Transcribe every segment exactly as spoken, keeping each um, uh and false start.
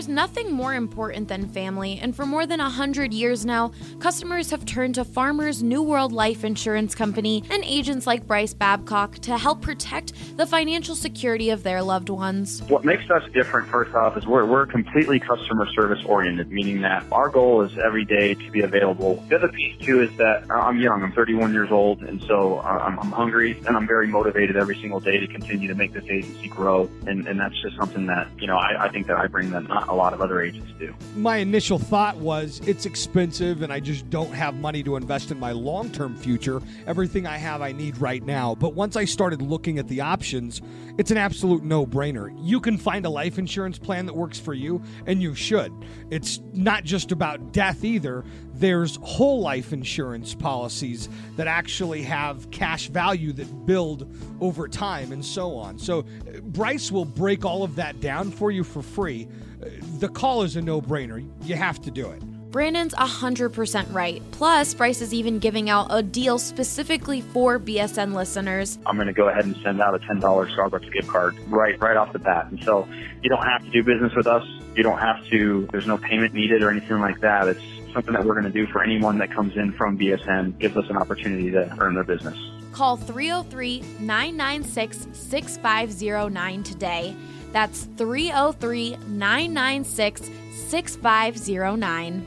There's nothing more important than family, and for more than one hundred years now, customers have turned to Farmers New World Life Insurance Company and agents like Bryce Babcock to help protect the financial security of their loved ones. What makes us different, first off, is we're, we're completely customer service oriented, meaning that our goal is every day to be available. The other piece, too, is that I'm young. I'm thirty-one years old, and so I'm, I'm hungry, and I'm very motivated every single day to continue to make this agency grow, and, and that's just something that, you know, I, I think that I bring that not a lot of other agents do. My initial thought was it's expensive, and I just don't have money to invest in my long-term future. Everything I have I need right now. But once I started looking at the options, it's an absolute no-brainer. You can find a life insurance plan that works for you, and you should. It's not just about death either. There's whole life insurance policies that actually have cash value that build over time and so on. So Bryce will break all of that down for you for free. The call is a no-brainer. You have to do it. Brandon's one hundred percent right. Plus, Bryce is even giving out a deal specifically for B S N listeners. I'm going to go ahead and send out a ten dollars Starbucks gift card right right off the bat. And so you don't have to do business with us. You don't have to, there's no payment needed or anything like that. It's something that we're going to do for anyone that comes in from B S N, gives us an opportunity to earn their business. Call three oh three, nine nine six, six five oh nine today. That's three oh three, nine nine six, six five oh nine.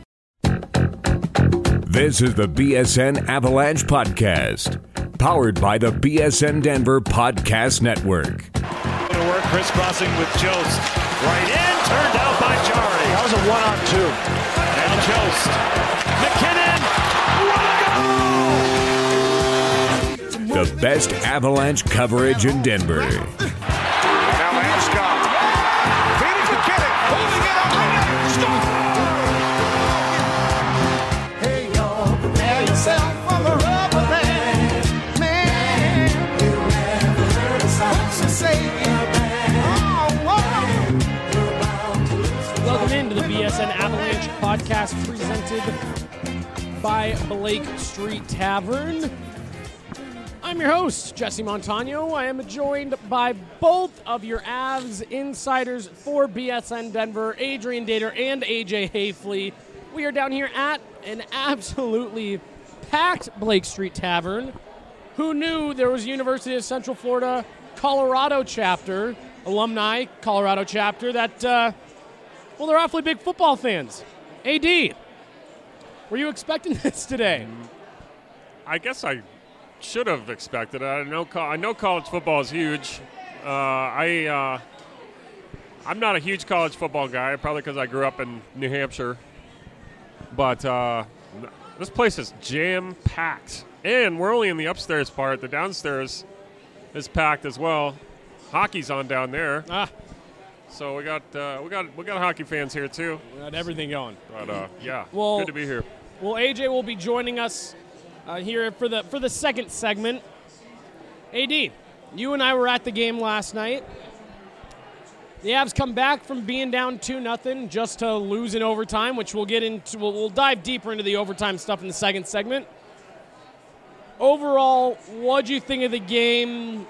This is the B S N Avalanche Podcast, powered by the B S N Denver Podcast Network. To work, crisscrossing with Jost. Right in, turned out by Jari. That was a one-on-two. And Jost. McKinnon. What a goal! The best Avalanche coverage in Denver. Now Landeskog. Feeding McKinnon. Holding it up. Score! Hey, y'all. Prepare yourself for the rubber band. Man, you never heard a song to say. Welcome into the B S N Avalanche Podcast presented by Blake Street Tavern. I'm your host, Jesse Montano. I am joined by both of your Avs insiders for B S N Denver, Adrian Dater and A J Hayfley. We are down here at an absolutely packed Blake Street Tavern. Who knew there was University of Central Florida Colorado chapter, alumni Colorado chapter, that, uh, well, they're awfully big football fans. A D, were you expecting this today? I guess I should have expected it. I know, I know college football is huge. Uh, I, uh, I'm not a huge college football guy, probably because I grew up in New Hampshire. But uh, this place is jam-packed. And we're only in the upstairs part. The downstairs is packed as well. Hockey's on down there. Ah. So we got uh, we got we got hockey fans here too. We got everything going. But uh, yeah, well, good to be here. Well, A J will be joining us uh, here for the for the second segment. A D, you and I were at the game last night. The Avs come back from being down two nothing just to lose in overtime, which we'll get into. We'll, we'll dive deeper into the overtime stuff in the second segment. Overall, what'd you think of the game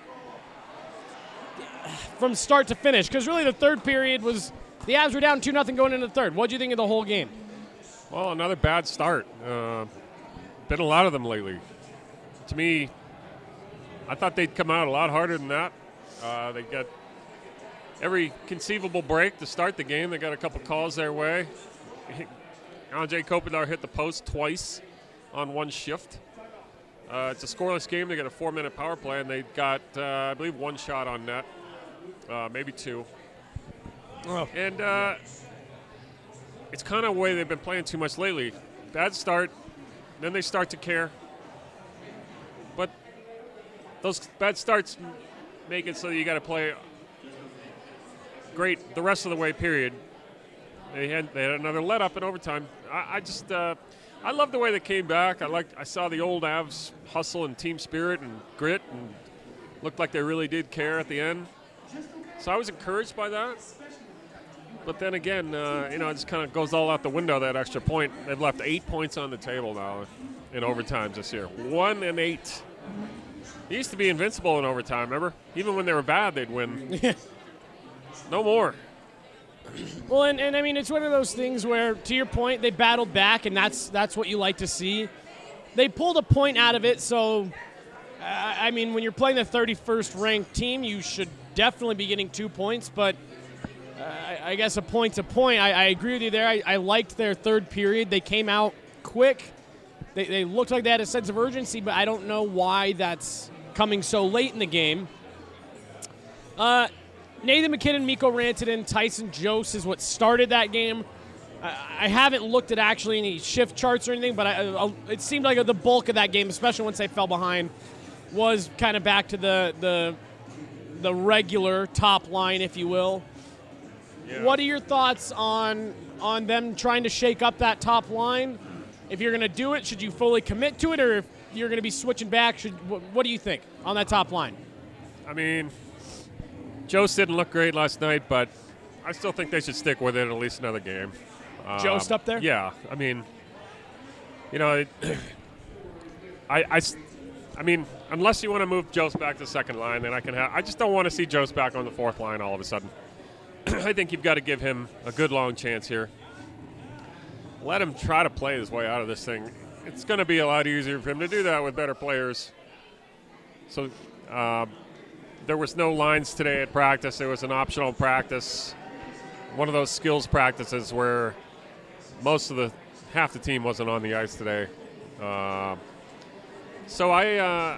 from start to finish? Because really the third period was, the Avs were down two nothing going into the third. What'd you think of the whole game? Well, another bad start. Uh, been a lot of them lately. To me, I thought they'd come out a lot harder than that. Uh, they got every conceivable break to start the game. They got a couple calls their way. Andrei Kopitar hit the post twice on one shift. Uh, it's a scoreless game. They got a four-minute power play, and they got, uh, I believe, one shot on net, uh, maybe two. Oh. And uh, it's kind of the way they've been playing too much lately. Bad start, then they start to care. But those bad starts make it so you got to play great the rest of the way, period. They had, they had another let-up in overtime. I, I just... Uh, I love the way they came back. I liked, I saw the old Avs hustle and team spirit and grit, and looked like they really did care at the end. So I was encouraged by that. But then again, uh, you know, it just kind of goes all out the window, that extra point. They've left eight points on the table now in overtimes this year. One and eight. They used to be invincible in overtime, remember? Even when they were bad, they'd win. No more. Well, and, and I mean, it's one of those things where, to your point, they battled back, and that's that's what you like to see. They pulled a point out of it, so, uh, I mean, when you're playing the thirty-first ranked team, you should definitely be getting two points, but uh, I, I guess a point to point. I, I agree with you there. I, I liked their third period. They came out quick. They, they looked like they had a sense of urgency, but I don't know why that's coming so late in the game. Uh, Nathan McKinnon, Mikko Rantanen, Tyson Jost is what started that game. I, I haven't looked at actually any shift charts or anything, but I, I, it seemed like the bulk of that game, especially once they fell behind, was kind of back to the the the regular top line, if you will. Yeah. What are your thoughts on on them trying to shake up that top line? If you're going to do it, should you fully commit to it, or if you're going to be switching back, should what, what do you think on that top line? I mean, Jost didn't look great last night, but I still think they should stick with it at least another game. Um, Jost up there? Yeah. I mean, you know, it, I, I, I mean, unless you want to move Jost back to the second line, then I can have. I just don't want to see Jost back on the fourth line all of a sudden. I think you've got to give him a good long chance here. Let him try to play his way out of this thing. It's going to be a lot easier for him to do that with better players. So uh, there was no lines today at practice. It was an optional practice, one of those skills practices where most of the half the team wasn't on the ice today. Uh, so I, uh,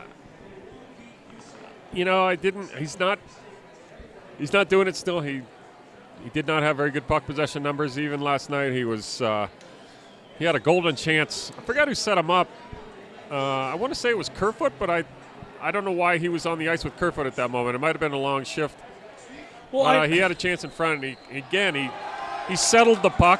you know, I didn't. He's not. He's not doing it still. He he did not have very good puck possession numbers even last night. He was. Uh, He had a golden chance. I forgot who set him up. Uh, I want to say it was Kerfoot, but I I don't know why he was on the ice with Kerfoot at that moment. It might have been a long shift. Well, uh, I, he had a chance in front, and he, again, he he settled the puck.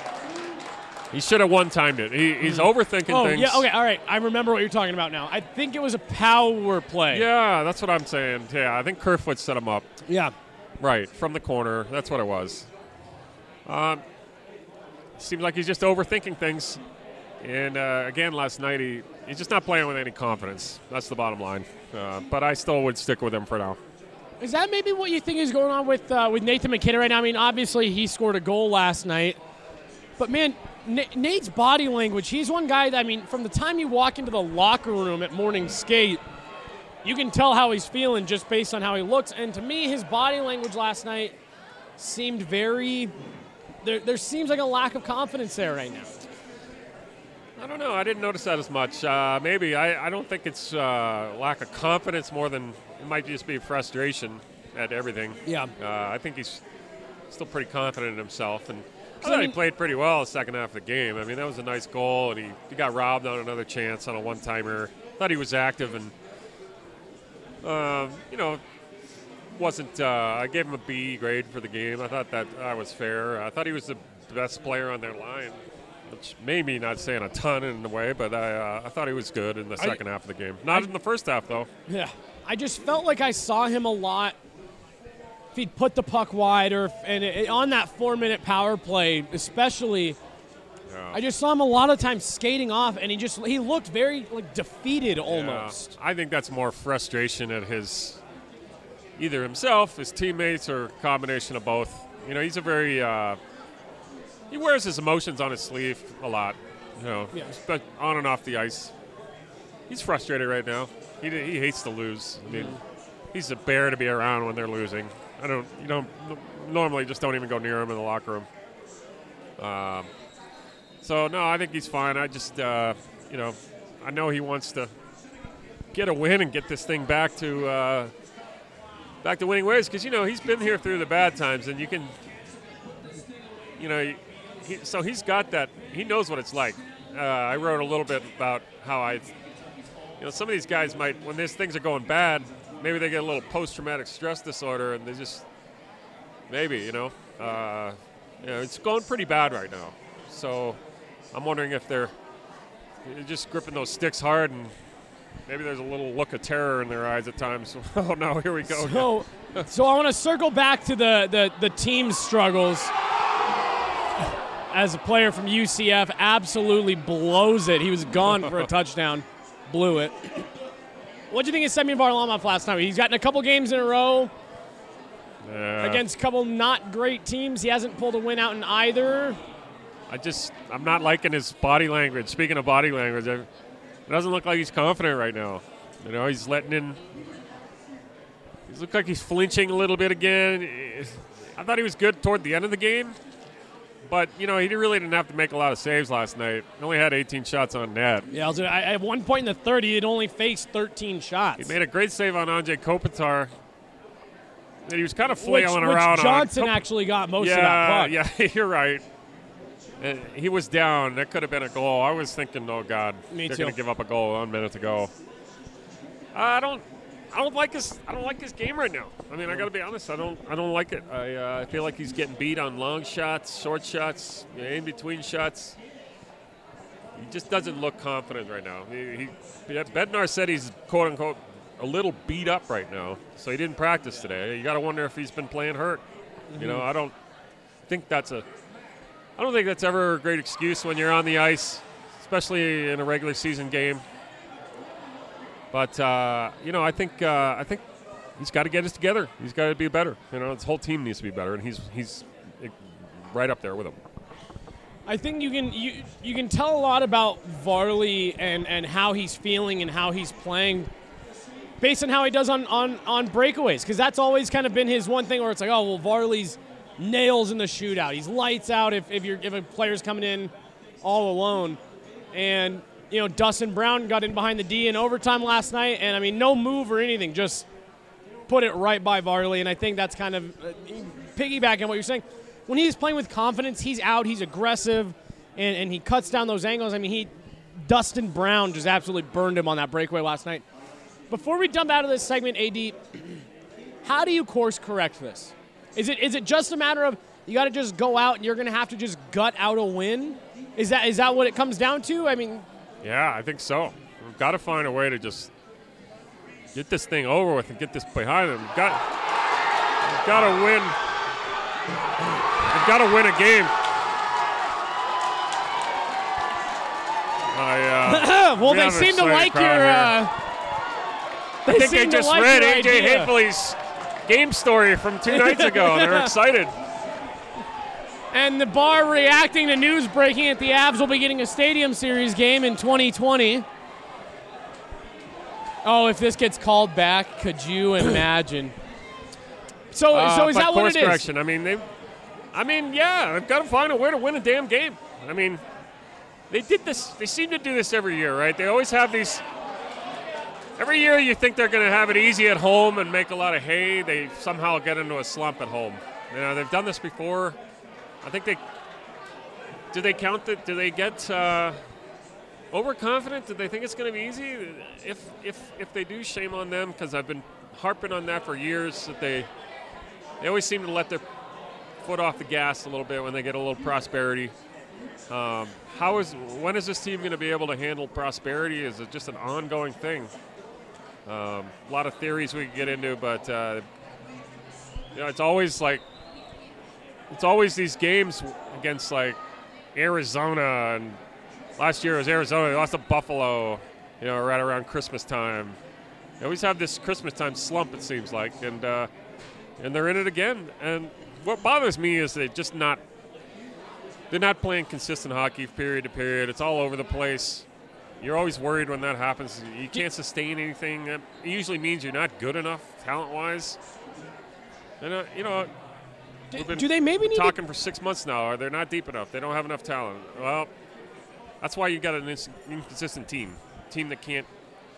He should have one-timed it. He, he's overthinking oh, things. yeah, okay, all right. I remember what you're talking about now. I think it was a power play. Yeah, that's what I'm saying. Yeah, I think Kerfoot set him up. Yeah. Right, from the corner. That's what it was. Um. Seems like he's just overthinking things. And, uh, again, last night, he, he's just not playing with any confidence. That's the bottom line. Uh, but I still would stick with him for now. Is that maybe what you think is going on with uh, with Nathan McKinnon right now? I mean, obviously, he scored a goal last night. But, man, N- Nate's body language, he's one guy that, I mean, from the time you walk into the locker room at morning skate, you can tell how he's feeling just based on how he looks. And to me, his body language last night seemed very... There, there seems like a lack of confidence there right now. I don't know. I didn't notice that as much. Uh, maybe. I, I don't think it's uh, lack of confidence more than it might just be frustration at everything. Yeah. Uh, I think he's still pretty confident in himself. And I thought I mean, he played pretty well the second half of the game. I mean, that was a nice goal, and he, he got robbed on another chance on a one-timer. Thought he was active and, uh, you know, wasn't uh, I gave him a B grade for the game. I thought that uh, was fair. I thought he was the best player on their line, which may be not saying a ton in a way, but I uh, I thought he was good in the second I, half of the game. Not I, in the first half, though. Yeah. I just felt like I saw him a lot if he'd put the puck wide or if, and it, on that four-minute power play especially, yeah. I just saw him a lot of times skating off, and he just he looked very like defeated almost. Yeah. I think that's more frustration at his – either himself, his teammates, or a combination of both. You know, he's a very uh, – he wears his emotions on his sleeve a lot, you know, yeah. but on and off the ice. He's frustrated right now. He he hates to lose. I mean, mm-hmm. he's a bear to be around when they're losing. I don't – you don't – normally just don't even go near him in the locker room. Um, so, no, I think he's fine. I just, uh, you know, I know he wants to get a win and get this thing back to uh, – back to winning ways, because, you know, he's been here through the bad times, and you can, you know, he, so he's got that, he knows what it's like. Uh, I wrote a little bit about how I, you know, some of these guys might, when these things are going bad, maybe they get a little post-traumatic stress disorder, and they just, maybe, you know, uh, you know, it's going pretty bad right now. So I'm wondering if they're just gripping those sticks hard, and maybe there's a little look of terror in their eyes at times. Oh, no, here we go. So, so I want to circle back to the, the, the team's struggles. As a player from U C F, absolutely blows it. He was gone for a touchdown. Blew it. What do you think of Semyon Varlamov last night? He's gotten a couple games in a row. Yeah. Against a couple not great teams. He hasn't pulled a win out in either. I just, I'm not liking his body language. Speaking of body language, I, it doesn't look like he's confident right now. You know, he's letting in, he looks like he's flinching a little bit again. I thought he was good toward the end of the game, but, you know, he really didn't have to make a lot of saves last night. He only had eighteen shots on net. Yeah, I, at one point in the third, he had only faced thirteen shots. He made a great save on Anze Kopitar. And he was kind of which, flailing which around. Johnson on actually got most yeah, of that puck. Yeah, you're right. Uh, he was down. That could have been a goal. I was thinking, oh, God, Me they're too. going to give up a goal one minute to go. I don't I don't like his I don't like his game right now. I mean, I got to be honest. I don't I don't like it. I uh, I feel like he's getting beat on long shots, short shots, you know, in between shots. He just doesn't look confident right now. He, he Bednar said he's quote unquote a little beat up right now, so he didn't practice today. You got to wonder if he's been playing hurt. Mm-hmm. You know, I don't think that's a I don't think that's ever a great excuse when you're on the ice, especially in a regular season game. But uh, you know, I think uh, I think he's got to get us together. He's got to be better. You know, his whole team needs to be better, and he's he's right up there with him. I think you can you you can tell a lot about Varley and, and how he's feeling and how he's playing based on how he does on, on, on breakaways, because that's always kind of been his one thing where it's like, oh, well, Varley's nails in the shootout. He's lights out if if you're if a player's coming in all alone. And you know, Dustin Brown got in behind the D in overtime last night, and I mean, no move or anything, just put it right by Varley. And I think that's kind of uh, piggybacking on what you're saying. When he's playing with confidence, he's out, he's aggressive, and, and he cuts down those angles. I mean, he Dustin Brown just absolutely burned him on that breakaway last night. Before we dump out of this segment, A D, how do you course correct this? Is it is it just a matter of you got to just go out and you're going to have to just gut out a win? Is that is that what it comes down to? I mean, yeah, I think so. We've got to find a way to just get this thing over with and get this behind them. We've got, we've got to win. We've got to win a game. I, uh, well, we they have an seem to excited like crowd your. here. Uh, they I think seem they to just like read your A J idea. Hafley's game story from two nights ago. They're excited. And the bar reacting to news breaking at the Avs will be getting a Stadium Series game in twenty twenty. Oh, if this gets called back, could you imagine? So, Uh, so is but that what course it is? correction. I mean, they. I mean, yeah, they've got to find a way to win a damn game. I mean, they did this. They seem to do this every year, right? They always have these. Every year, you think they're going to have it easy at home and make a lot of hay. They somehow get into a slump at home. You know, they've done this before. I think they. Do they count that? Do they get uh, overconfident? Do they think it's going to be easy? If if if they do, shame on them, because I've been harping on that for years. That they they always seem to let their foot off the gas a little bit when they get a little prosperity. Um, how is when is this team going to be able to handle prosperity? Is it just an ongoing thing? Um, a lot of theories we could get into, but uh, you know, it's always like it's always these games against like Arizona, and last year it was Arizona. They lost to Buffalo, you know, right around Christmas time. They always have this Christmas time slump, it seems like, and uh, and they're in it again. And what bothers me is they just not they're not playing consistent hockey period to period. It's all over the place. You're always worried when that happens. You can't sustain anything. It usually means you're not good enough talent-wise. And uh, you know, Do, we've been do they maybe need talking to, for six months now. Or they're not deep enough. They don't have enough talent. Well, that's why you got an ins- inconsistent team, team that can't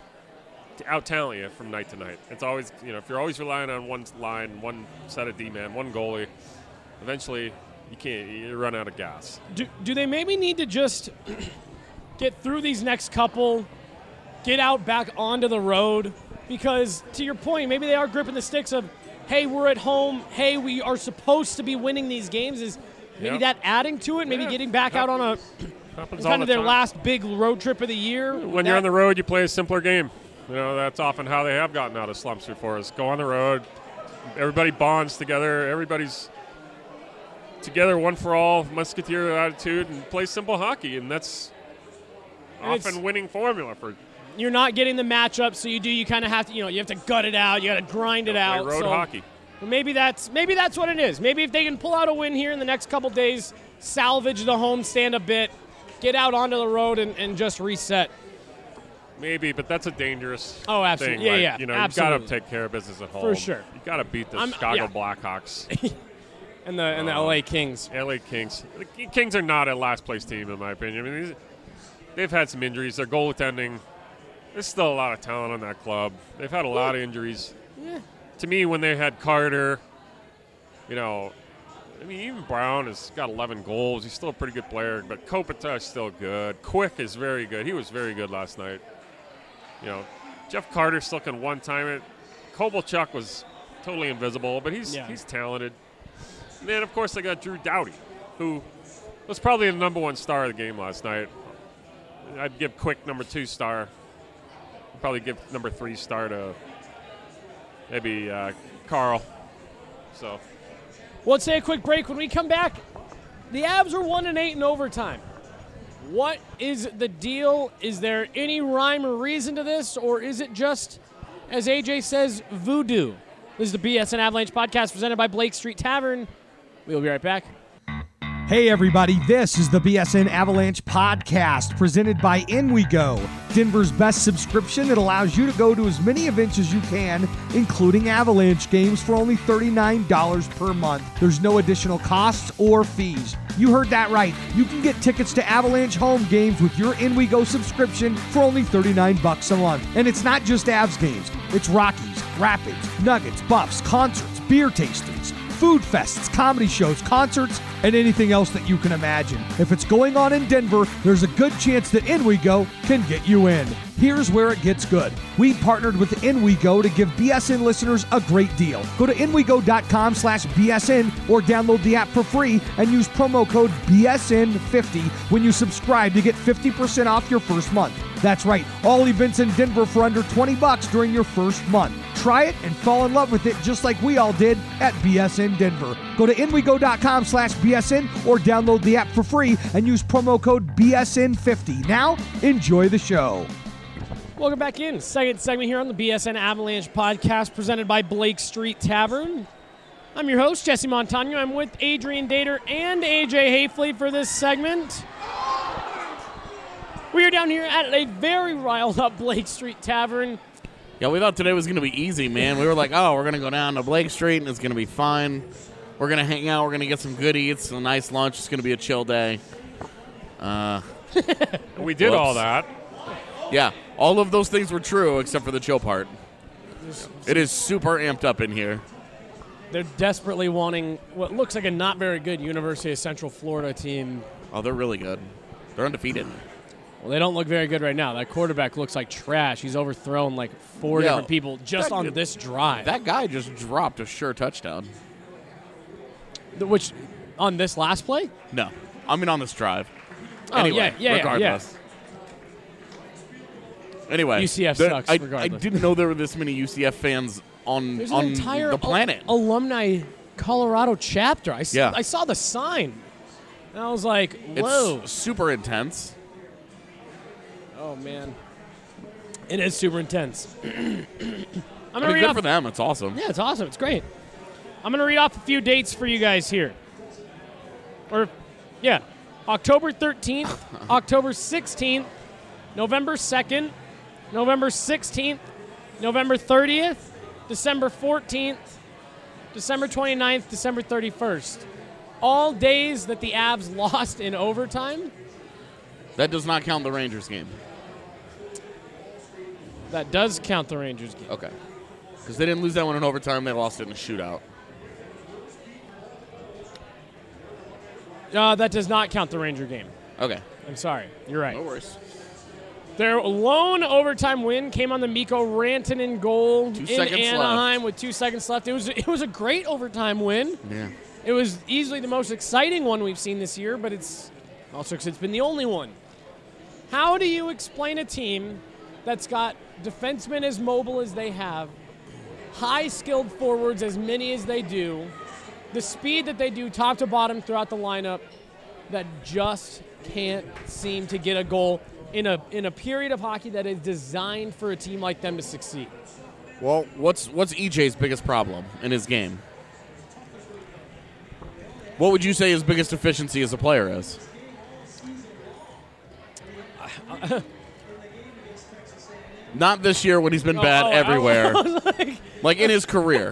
out talent you from night to night. It's always, you know, if you're always relying on one line, one set of D-man, one goalie, eventually you can't. You run out of gas. do, do they maybe need to just get through these next couple, get out back onto the road? Because to your point, maybe they are gripping the sticks of, hey, we're at home. Hey, we are supposed to be winning these games. Is maybe Yep. that adding to it? Maybe Yeah. getting back out on a Happens kind all of the their time. last big road trip of the year. When you're on the road, you play a simpler game. You know, that's often how they have gotten out of slumps before, is go on the road. Everybody bonds together. Everybody's together, one for all, musketeer attitude, and play simple hockey. And that's And it's- often winning formula for You're not getting the matchup, so you do. You kind of have to, you know, you have to gut it out. You got to grind it play out. road so hockey. But maybe that's maybe that's what it is. Maybe if they can pull out a win here in the next couple days, salvage the homestand a bit, get out onto the road and, and just reset. Maybe, but that's a dangerous Oh, absolutely. thing. Yeah, right? yeah, You know, absolutely. you've got to take care of business at home. For sure. You've got to beat the I'm- Chicago yeah. Blackhawks. And the and the Uh, L A Kings. L A Kings. The Kings are not a last-place team, in my opinion. I mean, these, they've had some injuries. Their goaltending, there's still a lot of talent on that club. They've had a lot of injuries. Yeah. To me, when they had Carter, you know, I mean, even Brown has got eleven goals. He's still a pretty good player, but Kopitar is still good. Quick is very good. He was very good last night. You know, Jeff Carter still can one-time it. Kovalchuk was totally invisible, but he's Yeah. he's talented. And then, of course, they got Drew Doughty, who was probably the number one star of the game last night. I'd give Quick number two star. I'd probably give number three star to maybe uh, Carl. So, Well, let's take a quick break. When we come back, the Avs are one and eight in overtime. What is the deal? Is there any rhyme or reason to this, or is it just, as A J says, voodoo? This is the B S N Avalanche podcast presented by Blake Street Tavern. We will be right back. Hey everybody, this is the B S N Avalanche podcast presented by In We Go, Denver's best subscription that allows you to go to as many events as you can, including Avalanche games for only thirty-nine dollars per month. There's no additional costs or fees. You heard that right. You can get tickets to Avalanche home games with your In We Go subscription for only thirty-nine bucks a month. And it's not just Avs games. It's Rockies, Rapids, Nuggets, Buffs, concerts, beer tastings, food fests, comedy shows, concerts, and anything else that you can imagine. If it's going on in Denver, there's a good chance that In We Go can get you in. Here's where it gets good. We partnered with In We Go to give B S N listeners a great deal. Go to inwego.com slash BSN or download the app for free and use promo code B S N fifty when you subscribe to get fifty percent off your first month. That's right, all events in Denver for under twenty bucks during your first month. Try it and fall in love with it just like we all did at B S N Denver. Go to inwego.com slash BSN or download the app for free and use promo code B S N fifty. Now, enjoy the show. Welcome back in. Second segment here on the B S N Avalanche podcast presented by Blake Street Tavern. I'm your host, Jesse Montano. I'm with Adrian Dater and A J Hafley for this segment. We are down here at a very riled up Blake Street Tavern. Yeah, we thought today was going to be easy, man. We were like, oh, we're going to go down to Blake Street and it's going to be fine. We're going to hang out. We're going to get some good eats, a nice lunch. It's going to be a chill day. Uh, we did whoops. all that. Yeah, all of those things were true except for the chill part. It is super amped up in here. They're desperately wanting what looks like a not very good University of Central Florida team. Oh, they're really good. They're undefeated. Well, they don't look very good right now. That quarterback looks like trash. He's overthrown like four Yeah, different people just that- on this drive. That guy just dropped a sure touchdown. The- Which, on this last play? No, I mean on this drive. Oh, anyway, yeah, yeah, yeah, regardless. Anyway, U C F there- sucks I, regardless. I didn't know there were this many U C F fans on There's on an entire the planet. al- alumni Colorado chapter. I, s- Yeah. I saw the sign. And I was like, It's whoa. super intense. Oh, man. It is super intense. I'm I going to mean, read good off. for them. It's awesome. Yeah, it's awesome. It's great. I'm going to read off a few dates for you guys here. Or, yeah, October thirteenth, October sixteenth, November second, November sixteenth, November thirtieth, December fourteenth, December twenty-ninth, December thirty-first. All days that the Avs lost in overtime. That does not count the Rangers game. That does count the Rangers game. Okay. Because they didn't lose that one in overtime. They lost it in a shootout. Uh, that does not count the Ranger game. Okay. I'm sorry. You're right. No worries. Their lone overtime win came on the Mikko Rantanen goal Two in seconds Anaheim left. with two seconds left. It was it was a great overtime win. Yeah. It was easily the most exciting one we've seen this year, but it's also because it's been the only one. How do you explain a team that's got defensemen as mobile as they have, high-skilled forwards as many as they do, the speed that they do top to bottom throughout the lineup, that just can't seem to get a goal in a in a period of hockey that is designed for a team like them to succeed? Well, what's what's E J's biggest problem in his game? What would you say his biggest deficiency as a player is? Not this year when he's been Oh, bad oh, everywhere. I was like, Like in his career.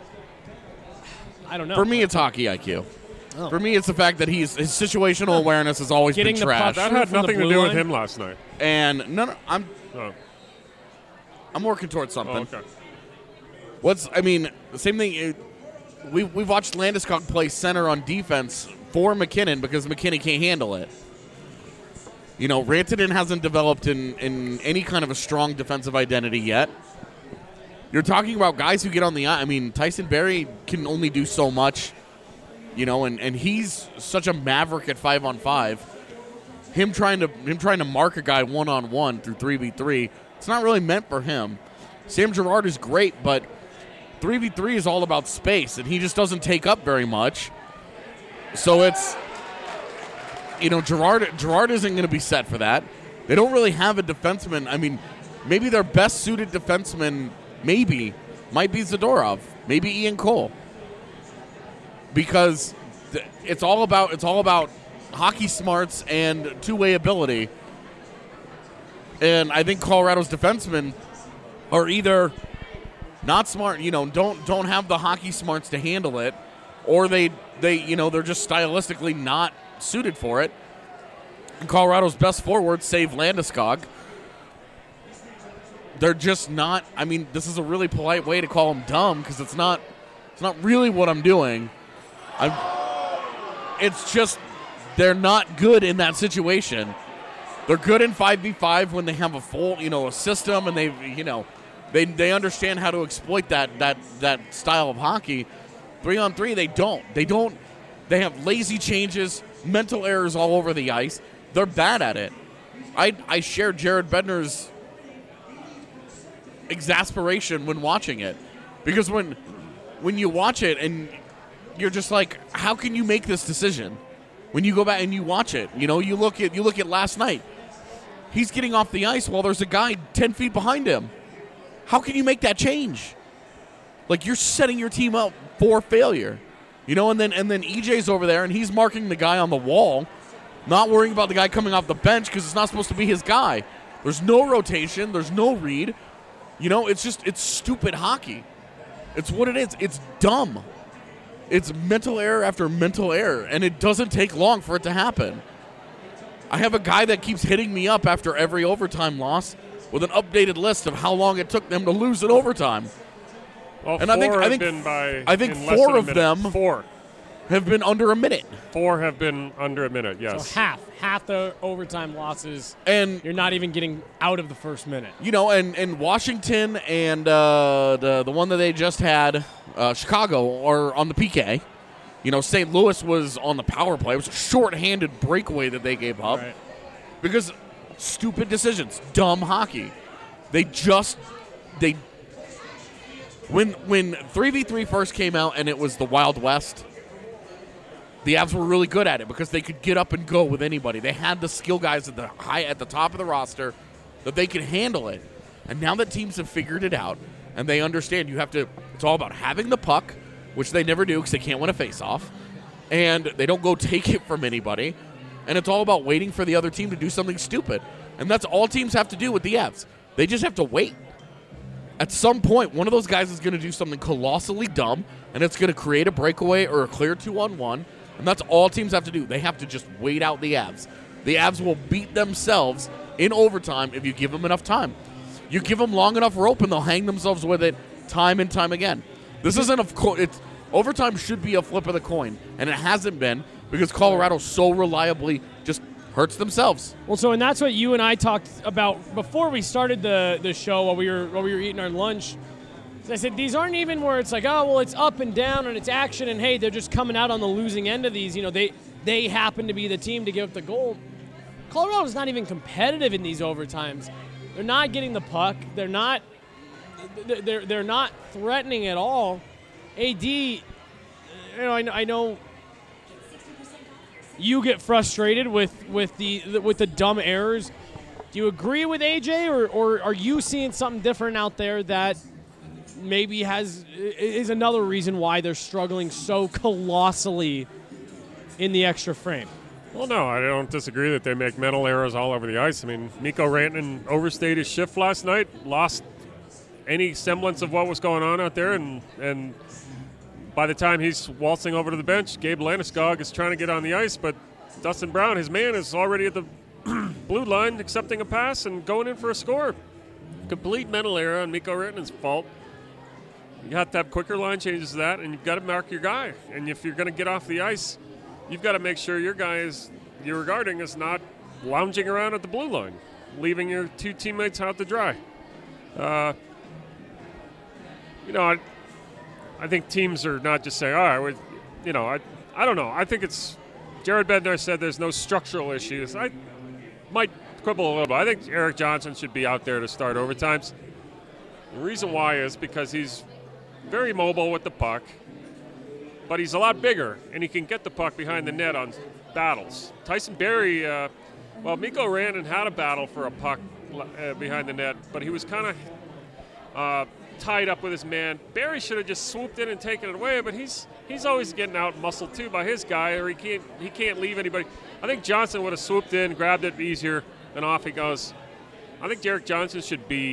I don't know. For me, it's hockey I Q. Oh. For me, it's the fact that he's his situational awareness has always Getting been the trash. puck That Shoot had from the nothing to blue do with line? him last night. And no, no, I'm Oh, I'm working towards something. oh okay. What's I mean, the same thing. It, we we watched Landeskog play center on defense for McKinnon because McKinnon can't handle it. You know, Rantanen hasn't developed in, in any kind of a strong defensive identity yet. You're talking about guys who get on the I mean, Tyson Barrie can only do so much, you know, and, and he's such a maverick at five on five. Him trying to him trying to mark a guy one on one through three v three, it's not really meant for him. Sam Girard is great, but three v three is all about space, and he just doesn't take up very much. So it's, you know, Girard Girard isn't going to be set for that. They don't really have a defenseman. I mean, maybe their best suited defenseman maybe might be Zadorov, maybe Ian Cole, because th- it's all about it's all about hockey smarts and two-way ability. And I think Colorado's defensemen are either not smart, you know, don't don't have the hockey smarts to handle it, or they they you know they're just stylistically not suited for it. And Colorado's best forwards, save Landeskog, they're just not. I mean, this is a really polite way to call them dumb because it's not. It's not really what I'm doing. I'm. It's just they're not good in that situation. They're good in five v five when they have a full, you know, a system and they, you know, they they understand how to exploit that that that style of hockey. Three on three, they don't. They don't. They have lazy changes, mental errors all over the ice. They're bad at it. I I share Jared Bednar's exasperation when watching it, because when when you watch it and you're just like, how can you make this decision? When you go back and you watch it, you know, you look at you look at last night. He's getting off the ice while there's a guy ten feet behind him. How can you make that change? Like, you're setting your team up for failure, you know. And then and then E J's over there and he's marking the guy on the wall, not worrying about the guy coming off the bench because it's not supposed to be his guy. There's no rotation. There's no read. You know, it's just it's stupid hockey. It's what it is. It's dumb. It's mental error after mental error, and it doesn't take long for it to happen. I have a guy that keeps hitting me up after every overtime loss with an updated list of how long it took them to lose in overtime. Well, and four I think I have think been by I think in less four than a of minute. them four have been under a minute. Four have been under a minute. Yes. So half, half the overtime losses, and you're not even getting out of the first minute. You know, and, and Washington and uh, the the one that they just had, uh, Chicago, are on the P K. You know, Saint Louis was on the power play. It was a short-handed breakaway that they gave up. Right. Because stupid decisions, dumb hockey. They just they when when three v three first came out and it was the Wild West, the Avs were really good at it because they could get up and go with anybody. They had the skill guys at the high at the top of the roster that they could handle it. And now that teams have figured it out and they understand you have to it's all about having the puck, which they never do because they can't win a face-off, and they don't go take it from anybody. And it's all about waiting for the other team to do something stupid. And that's all teams have to do with the Avs. They just have to wait. At some point, one of those guys is going to do something colossally dumb, and it's going to create a breakaway or a clear two-on-one, and that's all teams have to do. They have to just wait out the Avs. The Avs will beat themselves in overtime if you give them enough time. You give them long enough rope, and they'll hang themselves with it time and time again. This isn't a co- it's overtime should be a flip of the coin, and it hasn't been because Colorado so reliably just hurts themselves. Well, so and that's what you and I talked about before we started the, the show while we were while we were eating our lunch. I said these aren't even where it's like, oh well, it's up and down and it's action and hey, they're just coming out on the losing end of these. You know, they they happen to be the team to give up the goal. Colorado's not even competitive in these overtimes. They're not getting the puck. They're not. They're they're not threatening at all. A D, you know, I, I know you get frustrated with, with the with the dumb errors. Do you agree with A J, or, or are you seeing something different out there that maybe has is another reason why they're struggling so colossally in the extra frame. Well, no, I don't disagree that they make mental errors all over the ice. I mean, Mikko Rantanen overstayed his shift last night, lost any semblance of what was going on out there, and and by the time he's waltzing over to the bench, Gabe Landeskog is trying to get on the ice, but Dustin Brown, his man, is already at the blue line accepting a pass and going in for a score. Complete mental error on Mikko Rantanen's fault. You have to have quicker line changes to that, and you've got to mark your guy. And if you're going to get off the ice, you've got to make sure your guy is, you're guarding is not lounging around at the blue line, leaving your two teammates out to dry. Uh, you know, I, I think teams are not just saying, all right, we, you know, I, I don't know. I think it's, Jared Bednar said there's no structural issues. I might quibble a little bit. I think Erik Johnson should be out there to start overtimes. The reason why is because he's very mobile with the puck, but he's a lot bigger, and he can get the puck behind the net on battles. Tyson Barrie, uh, well, Mikko Rantanen had a battle for a puck uh, behind the net, but he was kind of uh, tied up with his man. Barrie should have just swooped in and taken it away, but he's he's always getting out muscled too by his guy, or he can't he can't leave anybody. I think Johnson would have swooped in, grabbed it easier, and off he goes. I think Erik Johnson should be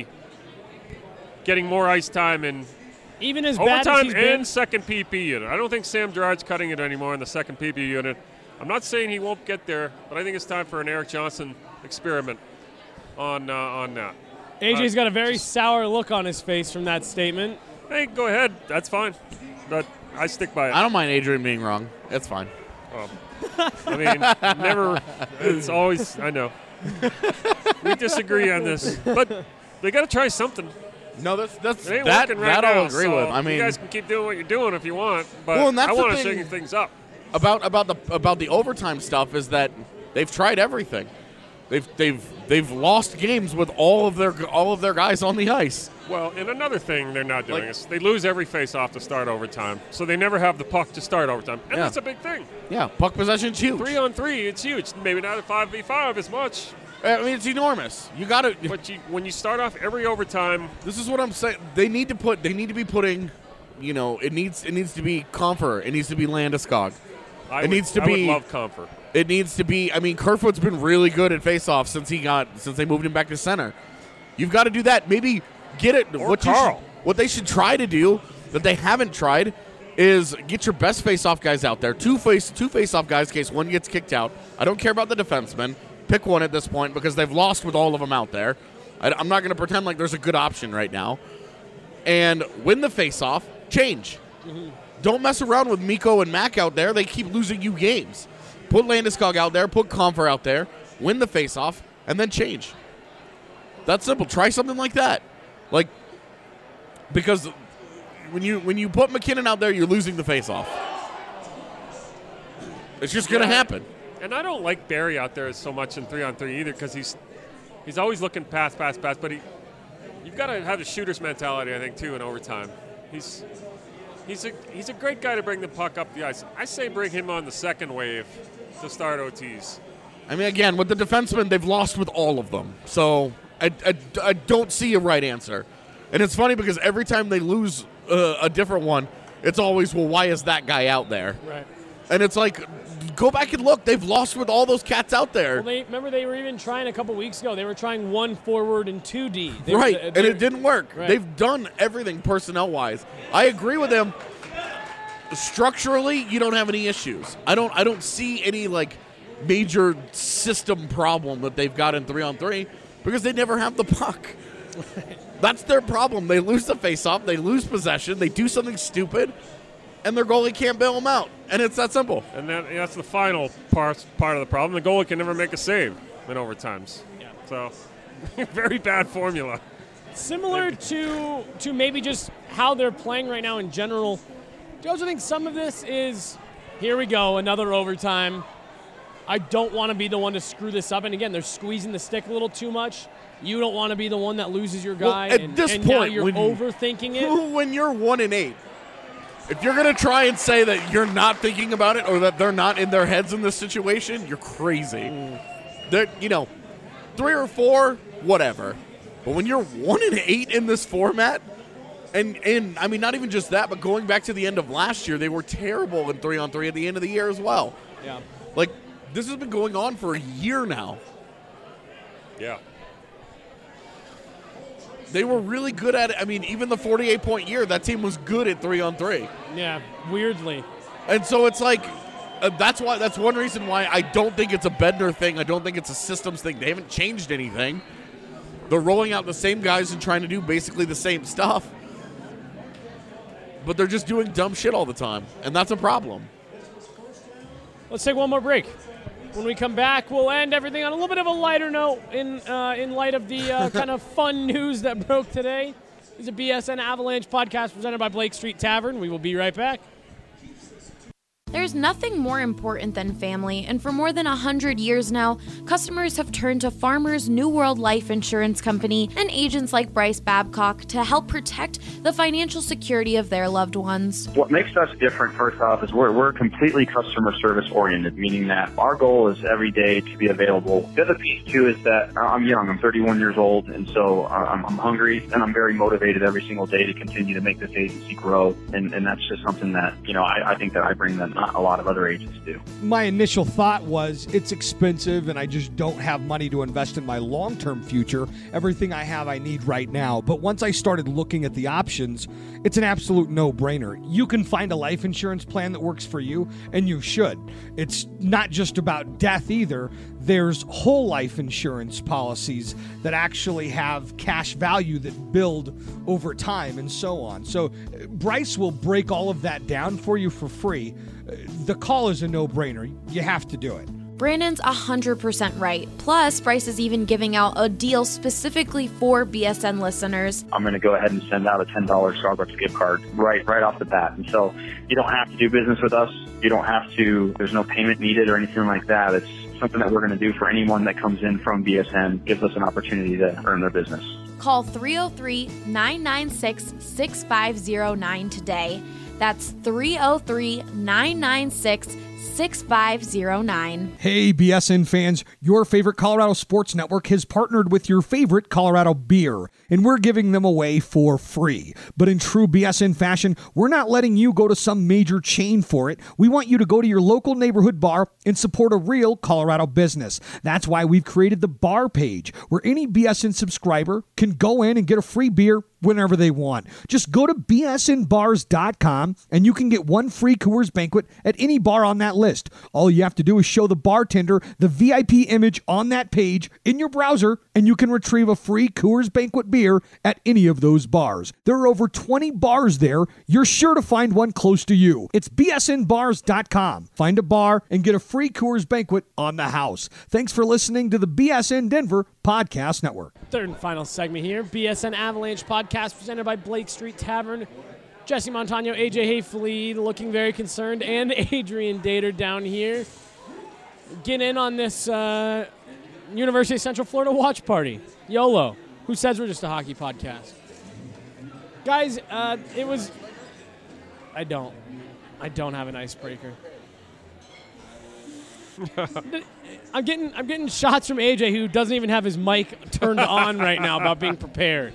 getting more ice time in even as bad as overtime he's and been. second P P unit. I don't think Sam Girard's cutting it anymore in the second P P unit. I'm not saying he won't get there, but I think it's time for an Erik Johnson experiment on uh, on that. A J's uh, got a very sour look on his face from that statement. Hey, go ahead. That's fine. But I stick by it. I don't mind Adrian being wrong. It's fine. Um, I mean, never. It's always. I know. We disagree on this, but they got to try something. No, that's that's It ain't that, working right that now, I'll agree so with. I mean, you guys can keep doing what you're doing if you want, but Well, and that's I the want to thing- shake things up. about about the about the overtime stuff is that they've tried everything. They've they've they've lost games with all of their all of their guys on the ice. Well, and another thing they're not doing Like- is they lose every face-off to start overtime, so they never have the puck to start overtime, and Yeah. that's a big thing. Yeah, puck possession's huge. Three on three, it's huge. Maybe not at five v five as much, I mean, it's enormous. You got to. but you, when you start off every overtime, This is what I'm saying. They need to put. They need to be putting. You know, it needs it needs to be Comfer. It needs to be Landeskog. I It would, needs to I be- would love comfort. It needs to be. I mean, Kerfoot's been really good at faceoffs since he got since they moved him back to center. You've got to do that. Maybe get it. Or what you Carl. should- what they should try to do that they haven't tried is get your best faceoff guys out there. Two face two faceoff guys in case one gets kicked out. I don't care about the defenseman. Pick one at this point because they've lost with all of them out there. I, I'm not going to pretend like there's a good option right now. And win the faceoff. Change. Mm-hmm. Don't mess around with Mikko and Mac out there. They keep losing you games. Put Landeskog out there. Put Comfer out there. Win the faceoff, and then change. That's simple. Try something like that. Like, because when you when you put McKinnon out there, you're losing the faceoff. It's just going to Yeah. happen. And I don't like Barry out there so much in three on three either because he's he's always looking pass, pass, pass. But he, you've got to have a shooter's mentality, I think, too, in overtime. He's he's a he's a great guy to bring the puck up the ice. I say bring him on the second wave to start O Ts. I mean, again, with the defensemen, they've lost with all of them. So I, I, I don't see a right answer. And it's funny because every time they lose uh, a different one, it's always, well, why is that guy out there? Right. And it's like, go back and look. They've lost with all those cats out there. Well, they remember they were even trying a couple weeks ago. They were trying one forward and two D. They were- right, they- and it didn't work. Right. They've done everything personnel-wise. I agree with them. Structurally, you don't have any issues. I don't. I don't see any like major system problem that they've got in three on three because they never have the puck. That's their problem. They lose the faceoff. They lose possession. They do something stupid, and their goalie can't bail them out. And it's that simple. And that, that's the final part part of the problem. The goalie can never make a save in overtimes. Yeah. So, very bad formula. Similar to to maybe just how they're playing right now in general. Do you also think some of this is, here we go, another overtime. I don't want to be the one to screw this up. And again, they're squeezing the stick a little too much. You don't want to be the one that loses your Well, guy. at and, this and now point, you're when- overthinking it. When you're one and eight, if you're going to try and say that you're not thinking about it or that they're not in their heads in this situation, you're crazy. They're, you know, three or four, whatever. But when you're one and eight in this format, and and I mean not even just that, but going back to the end of last year, they were terrible in three on three at the end of the year as well. Yeah. Like, this has been going on for a year now. Yeah. They were really good at it. I mean, even the forty-eight point year, that team was good at three on three. Yeah, weirdly. And so it's like, uh, that's why. That's one reason why I don't think it's a Bender thing. I don't think it's a systems thing. They haven't changed anything. They're rolling out the same guys and trying to do basically the same stuff. But they're just doing dumb shit all the time, and that's a problem. Let's take one more break. When we come back, we'll end everything on a little bit of a lighter note in uh, in light of the uh, kind of fun news that broke today. This is a B S N Avalanche podcast presented by Blake Street Tavern. We will be right back. There's nothing more important than family, and for more than one hundred years now, customers have turned to Farmers New World Life Insurance Company and agents like Bryce Babcock to help protect the financial security of their loved ones. What makes us different, first off, is we're, we're completely customer service oriented, meaning that our goal is every day to be available. The other piece, too, is that I'm young. I'm thirty-one years old, and so I'm, I'm hungry, and I'm very motivated every single day to continue to make this agency grow, and, and that's just something that, you know, I, I think that I bring that not a lot of other agents do. My initial thought was it's expensive and I just don't have money to invest in my long-term future. Everything I have I need right now. But once I started looking at the options, it's an absolute no-brainer. You can find a life insurance plan that works for you, and you should. It's not just about death either. There's whole life insurance policies that actually have cash value that build over time and so on. So Bryce will break all of that down for you for free. The call is a no-brainer. You have to do it. Brandon's one hundred percent right. Plus, Bryce is even giving out a deal specifically for B S N listeners. I'm going to go ahead and send out a ten dollars Starbucks gift card right right off the bat. And so you don't have to do business with us. You don't have to, there's no payment needed or anything like that. It's something that we're going to do for anyone that comes in from B S N, gives us an opportunity to earn their business. Call three oh three, nine nine six, six five oh nine today. That's three oh three, nine nine six, six five oh nine. Hey, B S N fans, your favorite Colorado Sports Network has partnered with your favorite Colorado beer, and we're giving them away for free. But in true B S N fashion, we're not letting you go to some major chain for it. We want you to go to your local neighborhood bar and support a real Colorado business. That's why we've created the bar page, where any B S N subscriber can go in and get a free beer whenever they want. Just go to B S N bars dot com and you can get one free Coors Banquet at any bar on that list. All you have to do is show the bartender the V I P image on that page in your browser, and you can retrieve a free Coors Banquet beer at any of those bars. There are over twenty bars there. You're sure to find one close to you. It's B S N bars dot com. Find a bar and get a free Coors Banquet on the house. Thanks for listening to the B S N Denver Podcast Network. Third and final segment here, B S N Avalanche podcast presented by Blake Street Tavern. Jesse Montano, A J Hayfleet looking very concerned, and Adrian Dater down here. Get in on this uh, University of Central Florida watch party. YOLO. Who says we're just a hockey podcast? Guys, uh, it was... I don't. I don't have an icebreaker. I'm getting I'm getting shots from A J, who doesn't even have his mic turned on right now, about being prepared.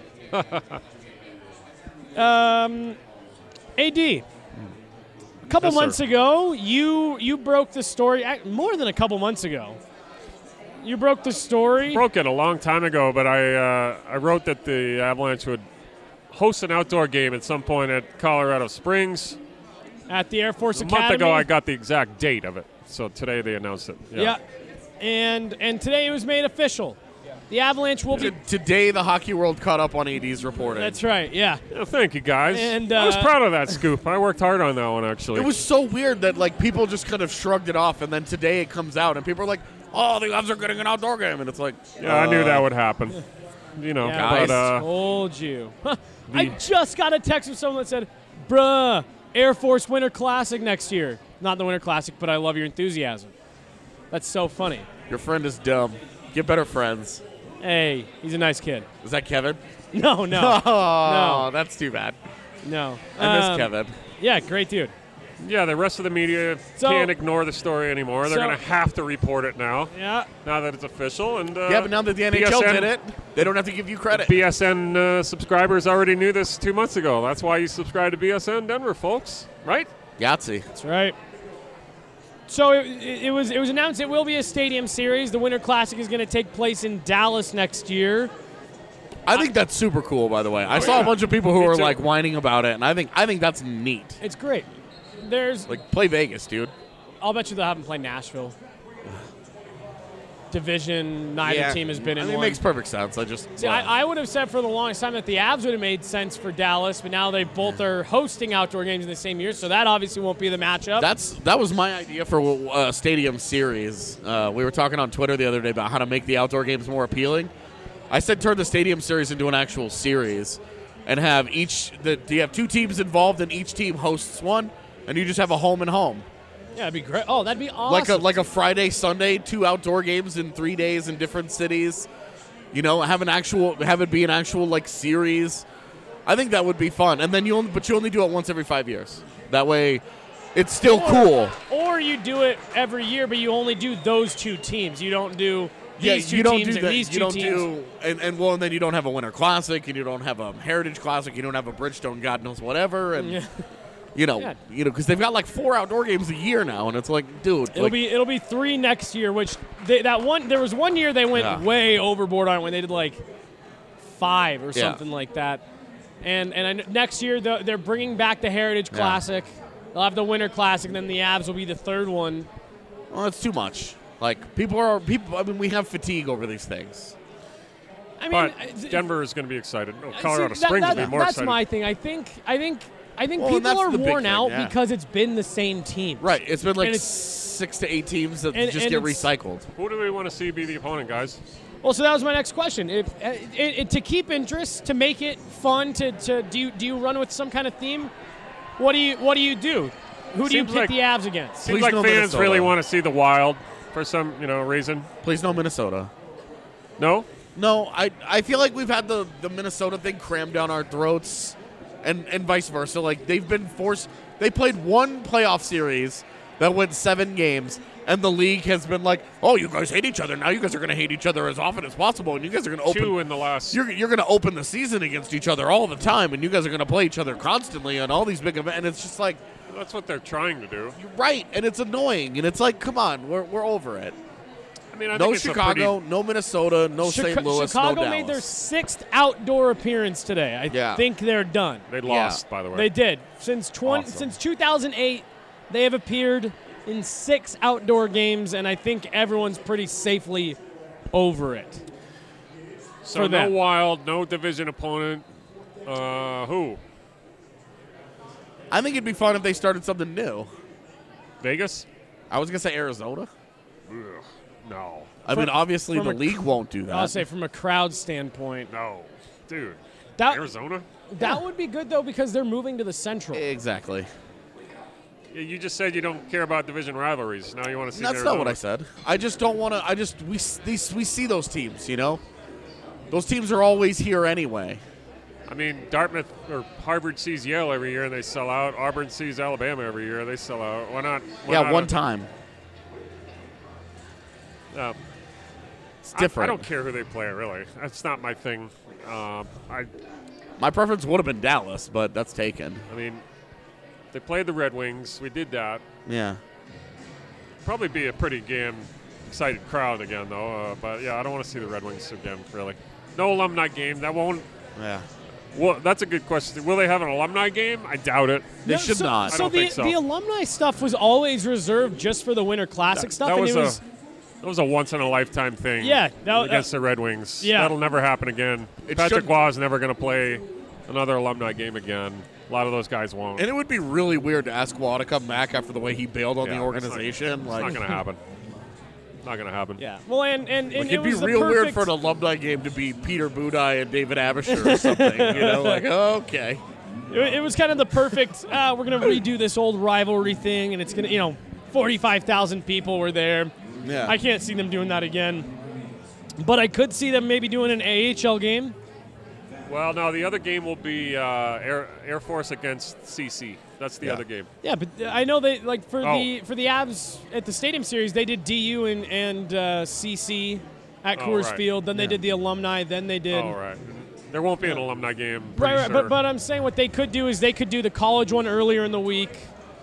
Um, A D, a couple Yes, months sir. ago, you you broke the story. ac- More than a couple months ago, you broke the story. Broke it a long time ago, but I uh, I wrote that the Avalanche would host an outdoor game at some point at Colorado Springs. At the Air Force A Academy. month ago, I got the exact date of it. So today they announced it. Yeah. And and today it was made official. The Avalanche will be. T- Today, the Hockey World caught up on A D's reporting. That's right. Yeah. Yeah, thank you, guys. And, I was uh, proud of that scoop. I worked hard on that one, actually. It was so weird that like people just kind of shrugged it off, and then today it comes out, and people are like, "Oh, the Avs are getting an outdoor game," and it's like, Yeah, I knew uh, that would happen. You know, Yeah, but guys. uh, Told you. I just got a text from someone that said, "Bruh, Air Force Winter Classic next year." Not the Winter Classic, but I love your enthusiasm. That's so funny. your friend is dumb. Get better friends. Hey, he's a nice kid. Is that Kevin? No, no, Oh, that's too bad. no. I miss Um, Kevin. Yeah, great dude. yeah, the rest of the media So- can't ignore the story anymore. They're So- going to have to report it now, Yeah. now that it's official. And uh, Yeah, but now that the N H L B S N did it, they don't have to give you credit. B S N uh, subscribers already knew this two months ago. That's why you subscribe to B S N Denver, folks. Right? Yahtzee. That's right. So it, it was it was announced it will be a stadium series. The Winter Classic is going to take place in Dallas next year. I think that's super cool, by the way. I Oh, saw yeah. a bunch of people who Me were too. like whining about it, and I think I think that's neat. It's great. There's Like, play Vegas, dude. I'll bet you they'll have them play Nashville. Division, neither team has been I in mean, one. It makes perfect sense. I just See, well, I, I would have said for the longest time that the Avs would have made sense for Dallas, but now they both are hosting outdoor games in the same year, so that obviously won't be the matchup. That's that was my idea for a stadium series. Uh, we were talking on Twitter the other day about how to make the outdoor games more appealing. I said turn the stadium series into an actual series, and have each the you have two teams involved, and each team hosts one, and you just have a home and home. yeah, that'd be great. Oh, that'd be awesome. Like a like a Friday, Sunday, two outdoor games in three days in different cities. You know, have an actual have it be an actual like series. I think that would be fun. And then you only, but you only do it once every five years. That way, it's still or, cool. Or you do it every year, but you only do those two teams. You don't do these Yeah, two you don't teams do and that. these You two don't teams. do and, and well, and then you don't have a Winter Classic, and you don't have a Heritage Classic, you don't have a Bridgestone, God knows whatever, and Yeah. you know, Yeah. you know, because they've got like four outdoor games a year now, and it's like, dude, It'll like, be it'll be three next year, which they, that one there was one year they went Yeah. way overboard on it when they did like five or Yeah. something like that. And and I, kn- next year they're they're bringing back the Heritage Yeah. Classic. They'll have the Winter Classic, and then the Avs will be the third one. well, it's too much. Like people are people. I mean, we have fatigue over these things. I mean, But uh, Denver is going to be excited. No, see, Colorado that- Springs that- will be more that's excited. my thing. I think I think I think Well, and people that's are the big worn thing, out yeah. because it's been the same team. Right. It's been like And it's- six to eight teams that and- just and get it's- recycled. Who do we want to see be the opponent, guys? Well, so that was my next question. If uh, it, it, to keep interest, to make it fun, to, to do you, do you run with some kind of theme? What do you what do you do? Who do you Seems pick like- the Avs against? Seems Please like no fans Minnesota. really want to see the Wild for some you know reason. Please no Minnesota. No, No, I I feel like we've had the, the Minnesota thing crammed down our throats, and and vice versa. Like they've been forced. They played one playoff series that went seven games, and the league has been like, "Oh, you guys hate each other. Now you guys are going to hate each other as often as possible, and you guys are going to open two in the last. you're, you're going to open the season against each other all the time, and you guys are going to play each other constantly on all these big events." And it's just like, That's what they're trying to do. you're right, and it's annoying, and it's like, come on, we're we're over it. I mean, I No think it's a Chicago, pretty- no Minnesota, no Chica- Saint Louis, Chicago no made their Dallas. sixth outdoor appearance today. I Yeah. think they're done. They lost, by the way. They did. Since twenty, Awesome. since two thousand eight, they have appeared in six outdoor games, and I think everyone's pretty safely over it. so for no them. Wild, no division opponent. Uh, who? I think it'd be fun if they started something new. Vegas? I was gonna say Arizona. Ugh, no, I mean, obviously from the a league won't do that. I'll say from a crowd standpoint, no, dude. that Arizona? that would be good though because they're moving to the Central. Exactly. Yeah, you just said you don't care about division rivalries. Now you want to see. That's Arizona. not what I said. I just don't want to. I just we s- these we see those teams. You know, those teams are always here anyway. I mean, Dartmouth or Harvard sees Yale every year and they sell out. Auburn sees Alabama every year, they sell out. Why not? Why yeah, not one a- time. Uh, It's I- different. I, don't care who they play, really. That's not my thing. Um, I, My preference would have been Dallas, but that's taken. I mean, they played the Red Wings. We did that. Yeah. Probably be a pretty damn excited crowd again, though. Uh, but yeah, I don't want to see the Red Wings again, really. No alumni game. That won't. Yeah. Well, that's a good question. Will they have an alumni game? I doubt it. They No, should so, not. I So don't the think so. the alumni stuff was always reserved just for the Winter Classic That- stuff, that and was it a- was That was a once in a lifetime thing. Yeah, that- against the Red Wings. yeah. That'll never happen again. It Patrick should- Waugh is never going to play another alumni game again. A lot of those guys won't. And it would be really weird to ask Wall to come back after the way he bailed on Yeah, the that's not- organization. It's like, not going to happen. Not going to happen. yeah. Well, and and, and Like, it it'd be was the real weird perfect- for an alumni game to be Peter Budai and David Abisher or something. You know, like, okay. It, it was kind of the perfect. Uh, we're gonna redo this old rivalry thing, and it's gonna, you know, forty-five thousand people were there. Yeah. I can't see them doing that again, but I could see them maybe doing an A H L game. Well, no, the other game will be uh, Air, Air Force against C C. That's the Yeah. other game. Yeah, but I know they like for Oh. the for the Avs at the Stadium Series, they did D U and and uh, C C at Oh, Coors right. Field. Then they did the alumni. Then they did. All right. There won't be an alumni game. Right, pretty right. sure. But but I'm saying what they could do is they could do the college one earlier in the week,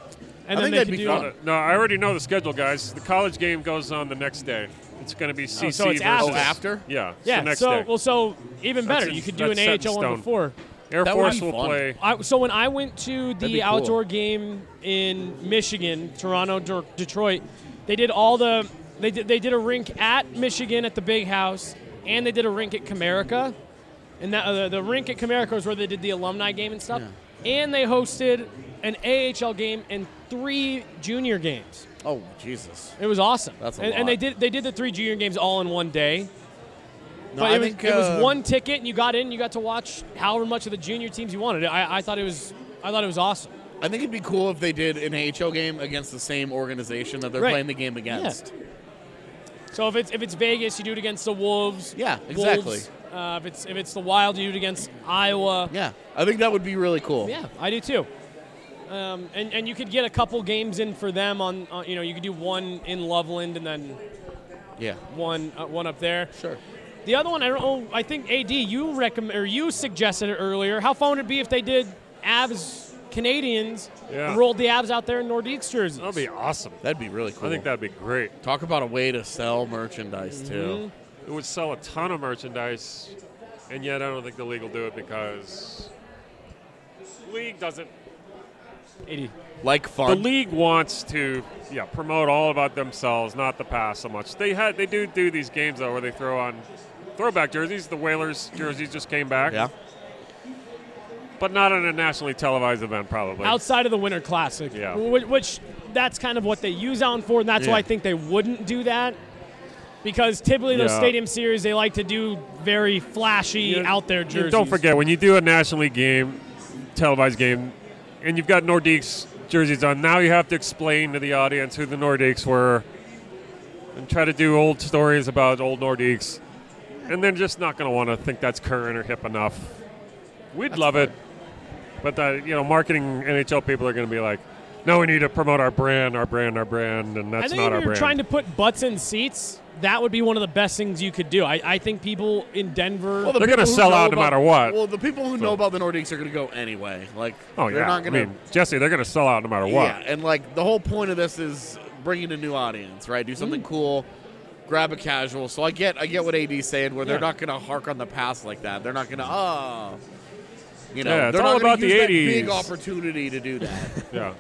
And I then think they that'd could be do fun. Uh, No, I already know the schedule, guys. The college game goes on the next day. It's going to be C C Oh, so it's versus. after. Oh, after? Yeah. It's Yeah. the next so day. well, so even That's better. in- You could do an that's set in A H L one stone. before. Air That would Force be will fun. play. I, so when I went to That'd the be cool. outdoor game in Michigan, Toronto, D- Detroit, they did all the they did they did a rink at Michigan at the Big House, and they did a rink at Comerica, and that uh, the, the rink at Comerica was where they did the alumni game and stuff, and they hosted an A H L game and three junior games. Oh, Jesus. It was awesome. That's a and, lot. and they did they did the three junior games all in one day. No, But I it was, think it was uh, one ticket, and you got in. You got to watch however much of the junior teams you wanted. I, I thought it was, I thought it was awesome. I think it'd be cool if they did an A H L game against the same organization that they're Right. playing the game against. So if it's if it's Vegas, you do it against the Wolves. Yeah, exactly. Wolves. Uh, if it's if it's the Wild, you do it against Iowa. Yeah, I think that would be really cool. Yeah, I do too. Um, and and you could get a couple games in for them on, on you know you could do one in Loveland and then Yeah. one uh, one up there. Sure. The other one, I don't know. I think A D, you recommend or you suggested it earlier. How fun would it be if they did Avs Canadians Yeah. and rolled the Avs out there in Nordiques jerseys? That'd be awesome. That'd be really cool. I think that'd be great. Talk about a way to sell merchandise too. It would sell a ton of merchandise, and yet I don't think the league will do it because the league doesn't. A D. Like The fun. league wants to, yeah, promote all about themselves, not the past so much. They had, they do do these games though where they throw on throwback jerseys. The Whalers jerseys just came back. Yeah. But not in a nationally televised event, probably. Outside of the Winter Classic, Yeah. wh- which that's kind of what they use on for, and that's Yeah. why I think they wouldn't do that. Because typically those Yeah. stadium series, they like to do very flashy, You- out there you jerseys. Don't forget, when you do a National League game, televised game, and you've got Nordiques jerseys on, now you have to explain to the audience who the Nordiques were and try to do old stories about old Nordiques. And they're just not going to want to think that's current or hip enough. We'd love it. But, the, you know, marketing N H L people are going to be like, no, we need to promote our brand, our brand, our brand, and I that's think not if our you're brand. trying to put butts in seats, that would be one of the best things you could do. I, I think people in Denver. Well, the They're gonna people who sell know out no about- matter what. Well, the people who know about the Nordiques are going to go anyway. Like, oh, they're yeah. not going to. I mean, Jesse, they're going to sell out no matter what. Yeah, and like the whole point of this is bringing a new audience, right? Do something cool, grab a casual. So I get, I get what A D's saying, where they're Yeah. not going to hark on the past like that. They're not going to, oh, you know, Yeah, it's they're all not gonna about the use that eighties. big opportunity to do that, Yeah.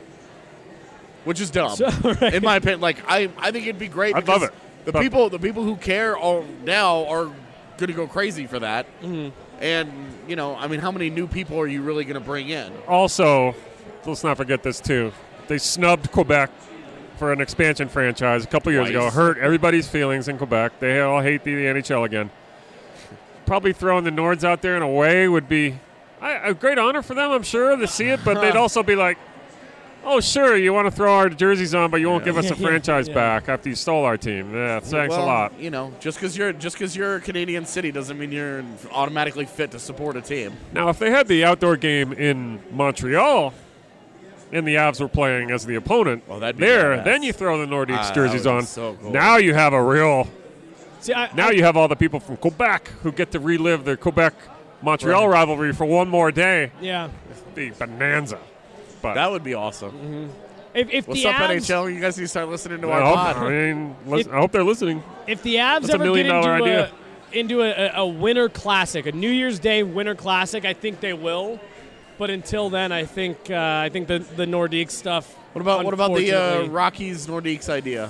which is dumb, So, right. in my opinion. Like, I, I think it'd be great. I'd love because it. The But- people, the people who care all now are going to go crazy for that. Mm-hmm. And you know, I mean, how many new people are you really going to bring in? Also, let's not forget this too. They snubbed Quebec for an expansion franchise a couple years ago. Twice. Hurt everybody's feelings in Quebec. They all hate the N H L again. Probably throwing the Nords out there in a way would be I, a great honor for them, I'm sure, to see it. But they'd also be like, "Oh, sure, you want to throw our jerseys on, but you won't give us Yeah, a yeah, franchise yeah. back after you stole our team." Yeah, thanks well, a lot. You know, just because you're just because you're a Canadian city doesn't mean you're automatically fit to support a team. Now, if they had the outdoor game in Montreal and the Avs were playing as the opponent Well, that'd be there, badass. then you throw the Nordiques Ah, that jerseys would be on. so cool. Now you have a real. See, I, Now I, you have all the people from Quebec who get to relive their Quebec Montreal Right. rivalry for one more day. yeah. The bonanza. But That would be awesome. If, if What's the up, Avs, N H L? You guys need to start listening to I our hope, pod. I mean, lis- If- I hope they're listening. if the Avs That's a ever million get into dollar a, idea. into a, a, a winter classic, a New Year's Day winter classic, I think they will. But until then, I think uh, I think the the Nordique stuff. What about what about the uh, unfortunately- Rockies Nordiques idea?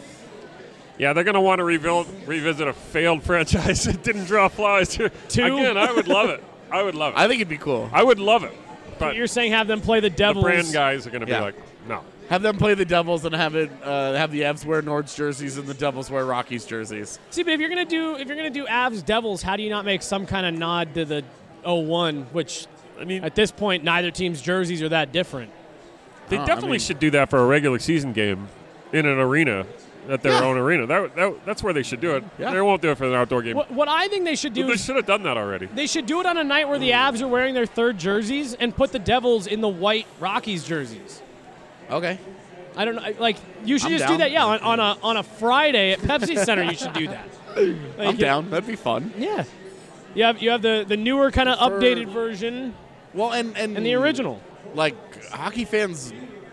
Yeah, they're going to want to rebuild, revisit a failed franchise that didn't draw flies. Two? Again, I would love it. I would love it. I think it'd be cool. I would love it. But You're saying have them play the the Devils? brand guys are going to Yeah. be like, no. Have them play the Devils and have it uh, have the Avs wear Nords jerseys and the Devils wear Rockies jerseys. See, but if you're gonna do if you're gonna do Avs Devils, how do you not make some kind of nod to the oh one? Which I mean, at this point, neither team's jerseys are that different. they Oh, I definitely mean- should do that for a regular season game in an arena, at their Yeah. own arena. That, that That's where they should do it. Yeah. They won't do it for an outdoor game. What, what I think they should do They is should have done that already. they should do it on a night where the Avs are wearing their third jerseys and put the Devils in the white Rockies jerseys. Okay. I don't know. Like you should I'm just down. do that. Yeah, on, on a on a Friday at Pepsi Center, you should do that. Like, I'm you- down. That'd be fun. Yeah. You have you have the, the newer kind of For- updated version Well, and and and the original. Like hockey fans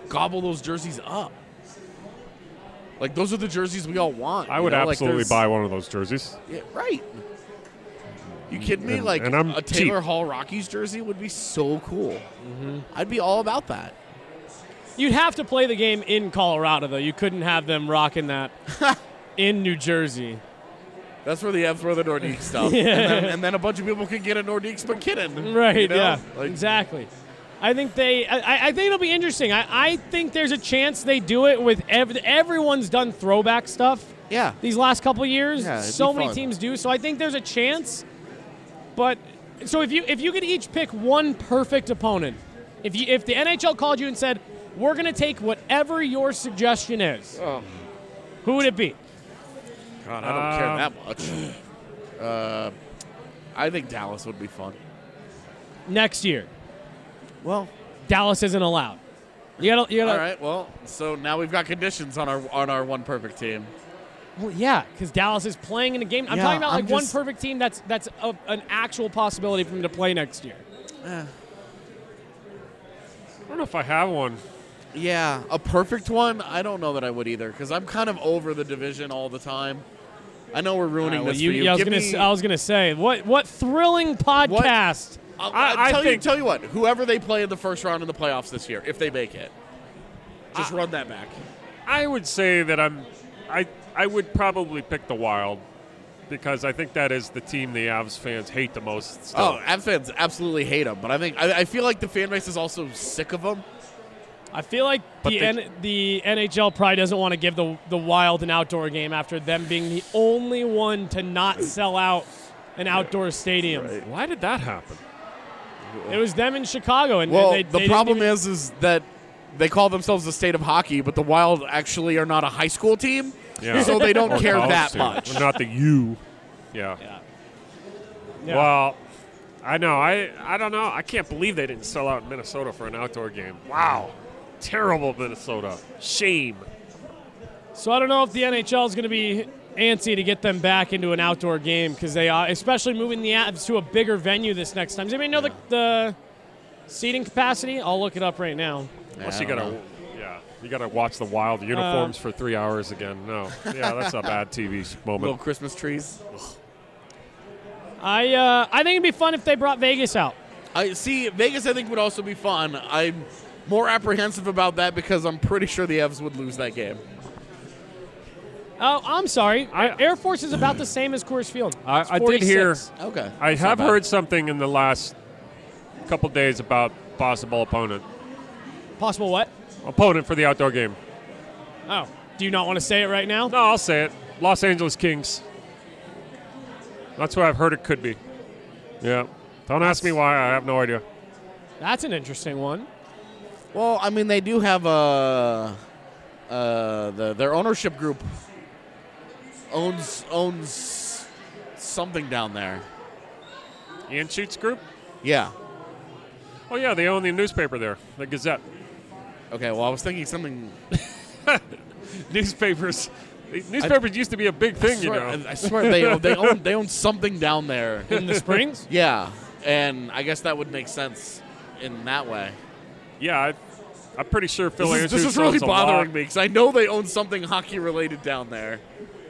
gobble those jerseys up. Like, those are the jerseys we all want. I would you know? absolutely like buy one of those jerseys. Yeah, right. You kidding me? And- like, and I'm a Taylor cheap. Hall Rockies jersey would be so cool. Mm-hmm. I'd be all about that. You'd have to play the game in Colorado, though. You couldn't have them rocking that in New Jersey. That's where the Fs wear the Nordique stuff. Yeah. and, then, and then a bunch of people can get a Nordique McKinnon. Right, you know? yeah, Like, exactly. I think they. I, I think it'll be interesting. I, I think there's a chance they do it with ev- everyone's done throwback stuff. Yeah. These last couple of years, Yeah, it'd so be many fun. teams do. So I think there's a chance. But so if you if you could each pick one perfect opponent, if you if the N H L called you and said we're going to take whatever your suggestion is, Oh. who would it be? God, I don't care that much. Uh, I think Dallas would be fun. Next year, Well, Dallas isn't allowed. You gotta. You gotta. all right. Well, so now we've got conditions on our on our one perfect team. Well, yeah, because Dallas is playing in a game. I'm Yeah, talking about I'm like one just- perfect team that's that's a, an actual possibility for them to play next year. I don't know if I have one. Yeah, a perfect one. I don't know that I would either because I'm kind of over the division all the time. I know we're ruining All right, well, this you- for you. yeah, I was Give gonna. me- s- I was gonna say what what thrilling podcast. I'll, I- I'll I tell think- you, tell you what. Whoever they play in the first round in the playoffs this year, if they make it, just run that back. I would say that I'm. I I would probably pick the Wild because I think that is the team the Avs fans hate the most. Still. Oh, Avs fans absolutely hate them, but I think I, I feel like the fan base is also sick of them. I feel like But the they- N- the N H L probably doesn't want to give the the Wild an outdoor game after them being the only one to not sell out an outdoor stadium. Why did that happen? It was them in Chicago, and, Well, and they, the they problem didn't is, is that they call themselves the state of hockey, but the Wild actually are not a high school team, Yeah. so they don't Or care college that team. much. Or not the U. Yeah. Yeah. Yeah. Well, I know. I I don't know. I can't believe they didn't sell out in Minnesota for an outdoor game. Wow. Terrible Minnesota. Shame. So I don't know if the N H L is going to be antsy to get them back into an outdoor game because they are, especially moving the Avs to a bigger venue this next time. Does anybody know the, the seating capacity? I'll look it up right now. Plus, I you don't gotta, know. yeah, you gotta watch the Wild uniforms for three hours again. No, yeah, that's a bad T V Little moment. Christmas trees. I uh, I think it'd be fun if they brought Vegas out. I see. Vegas, I think, would also be fun. I'm more apprehensive about that because I'm pretty sure the Evs would lose that game. Oh, I'm sorry. I- Air Force is about the same as Coors Field. I- It's I did hear- forty-six. Okay. I That's not have bad. heard something in the last couple days about possible opponent. Possible what? Opponent for the outdoor game. Oh, do you not want to say it right now? No, I'll say it. Los Angeles Kings. That's what I've heard it could be. Yeah. Don't ask me why. I have no idea. That's an interesting one. Well, I mean, they do have a uh, the their ownership group owns owns something down there. Ian Shoots Group? Yeah. Oh, yeah, they own the newspaper there, the Gazette. Okay. Well, I was thinking something. Newspapers. Newspapers used to be a big thing, I you swear, know. I swear they own, they own they own something down there. In the Springs? Yeah, and I guess that would make sense in that way. Yeah, I, I'm pretty sure Phil This is, Andrews this is really owns a bothering lot. me because I know they own something hockey related down there.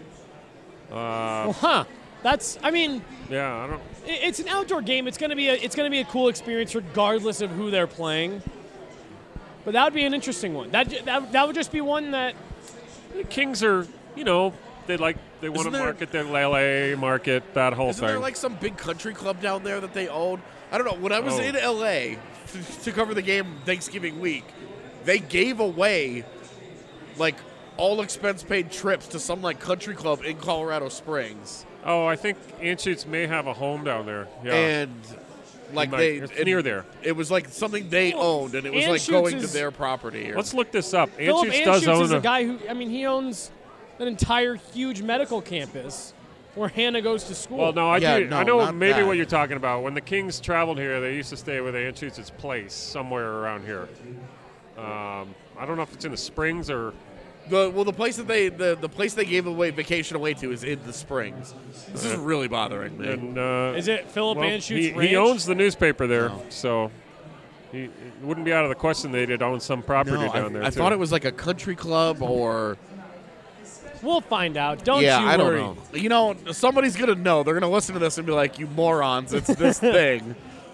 Uh, Well, huh. That's, I mean, yeah, I don't. i- it's an outdoor game. It's gonna be a, it's gonna be a cool experience regardless of who they're playing. But that would be an interesting one. That ju- that, that would just be one that The Kings are, you know, they like they want to Isn't there- market their L A market, that whole Isn't thing. there like some big country club down there that they own? I don't know. When I was Oh. in L A to, to cover the game Thanksgiving week, they gave away like all expense paid trips to some like country club in Colorado Springs, oh, I think Anschutz may have a home down there. Yeah, and like might- they it's it- near there. It was like something they owned, and it was like Anschutz going to is- their property. Or, Let's look this up. Philip Anschutz does Anschutz own is a a. guy who, I mean, he owns an entire huge medical campus where Hannah goes to school. Well, no, I Yeah, do. no, I know not maybe that. what you're talking about. When the Kings traveled here, they used to stay with Anschutz's place somewhere around here. Um, I don't know if it's in the Springs or. the well, the place that they the, the place they gave away vacation away to is in the Springs. This is really bothering me. And, uh, Is it Philip well, Anschutz he, Ranch? he owns the newspaper there, No. so He, it wouldn't be out of the question they'd own some property No, down I, there. I too. thought it was like a country club or. We'll find out. Don't yeah, you I don't worry. know. You know, somebody's gonna know. They're gonna listen to this and be like, "You morons! It's this thing."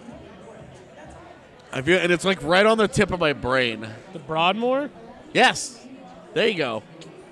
I feel, and it's like right on the tip of my brain. The Broadmoor? Yes, there you go.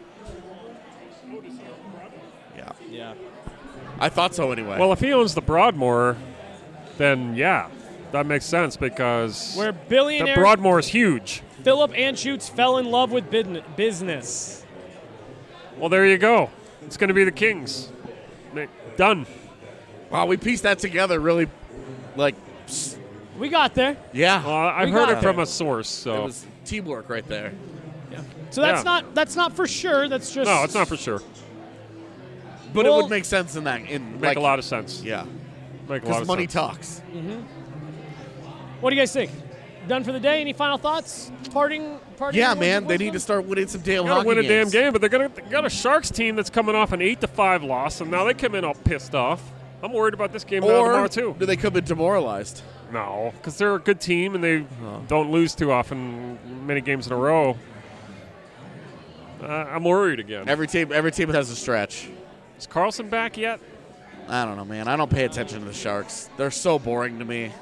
Yeah, Yeah. I thought so anyway. Well, if he owns the Broadmoor, then yeah, that makes sense because Where the billionaire Broadmoor is huge. Philip Anschutz fell in love with bidn- business. Well, there you go. It's going to be the Kings. Ma- Done. wow, we pieced that together really, like, We got there. yeah. Well, I've We heard got it from there. a source, so It was teamwork right there. So that's Yeah. not that's not for sure. That's just no, it's not for sure. But Well- it would make sense in that. In Make like, a lot of sense. Yeah, Make a lot because of money sense. talks. What do you guys think? Done for the day? Any final thoughts? Parting? parting Yeah, words man, of they need to wisdom? start winning some damn They gotta hockey win a damn games. game, but they're gonna they got a Sharks team that's coming off an eight to five loss, and now they come in all pissed off. I'm worried about this game now tomorrow Or too. do they come in demoralized? No, because they're a good team and they don't lose too often, many games in a row. Uh, I'm worried again. Every team, every team has a stretch. Is Carlson back yet? I don't know, man. I don't pay attention to the Sharks. They're so boring to me.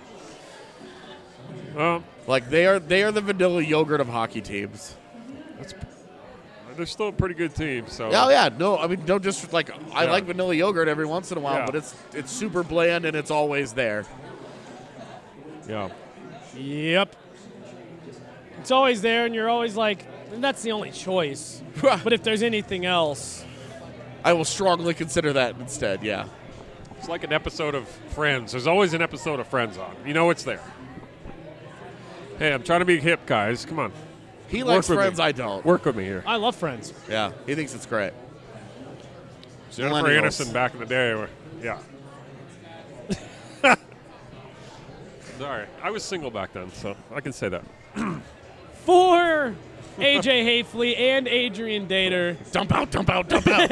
Well, Like they are, they are the vanilla yogurt of hockey teams. they're still a pretty good team. So Oh yeah, no, I mean don't just like I Yeah. like vanilla yogurt every once in a while, Yeah. but it's it's super bland and it's always there. yeah. Yep. It's always there, and you're always like, that's the only choice. But if there's anything else, I will strongly consider that instead. Yeah. It's like an episode of Friends. There's always an episode of Friends on. You know it's there. Hey, I'm trying to be hip, guys. Come on. He Work likes with Friends. me. I don't. Work with me here. I love Friends. Yeah, he thinks it's great. Jennifer Millennials. Aniston back in the day. were- Yeah. Sorry. I was single back then, so I can say that. For A J Hafley and Adrian Dater, Dump out, dump out, dump out.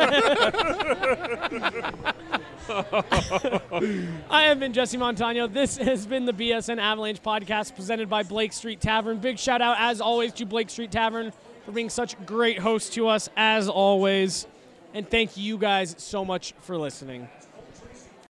I have been Jesse Montano. This has been the B S N Avalanche podcast presented by Blake Street Tavern. Big shout out, as always, to Blake Street Tavern for being such great hosts to us, as always. And thank you guys so much for listening.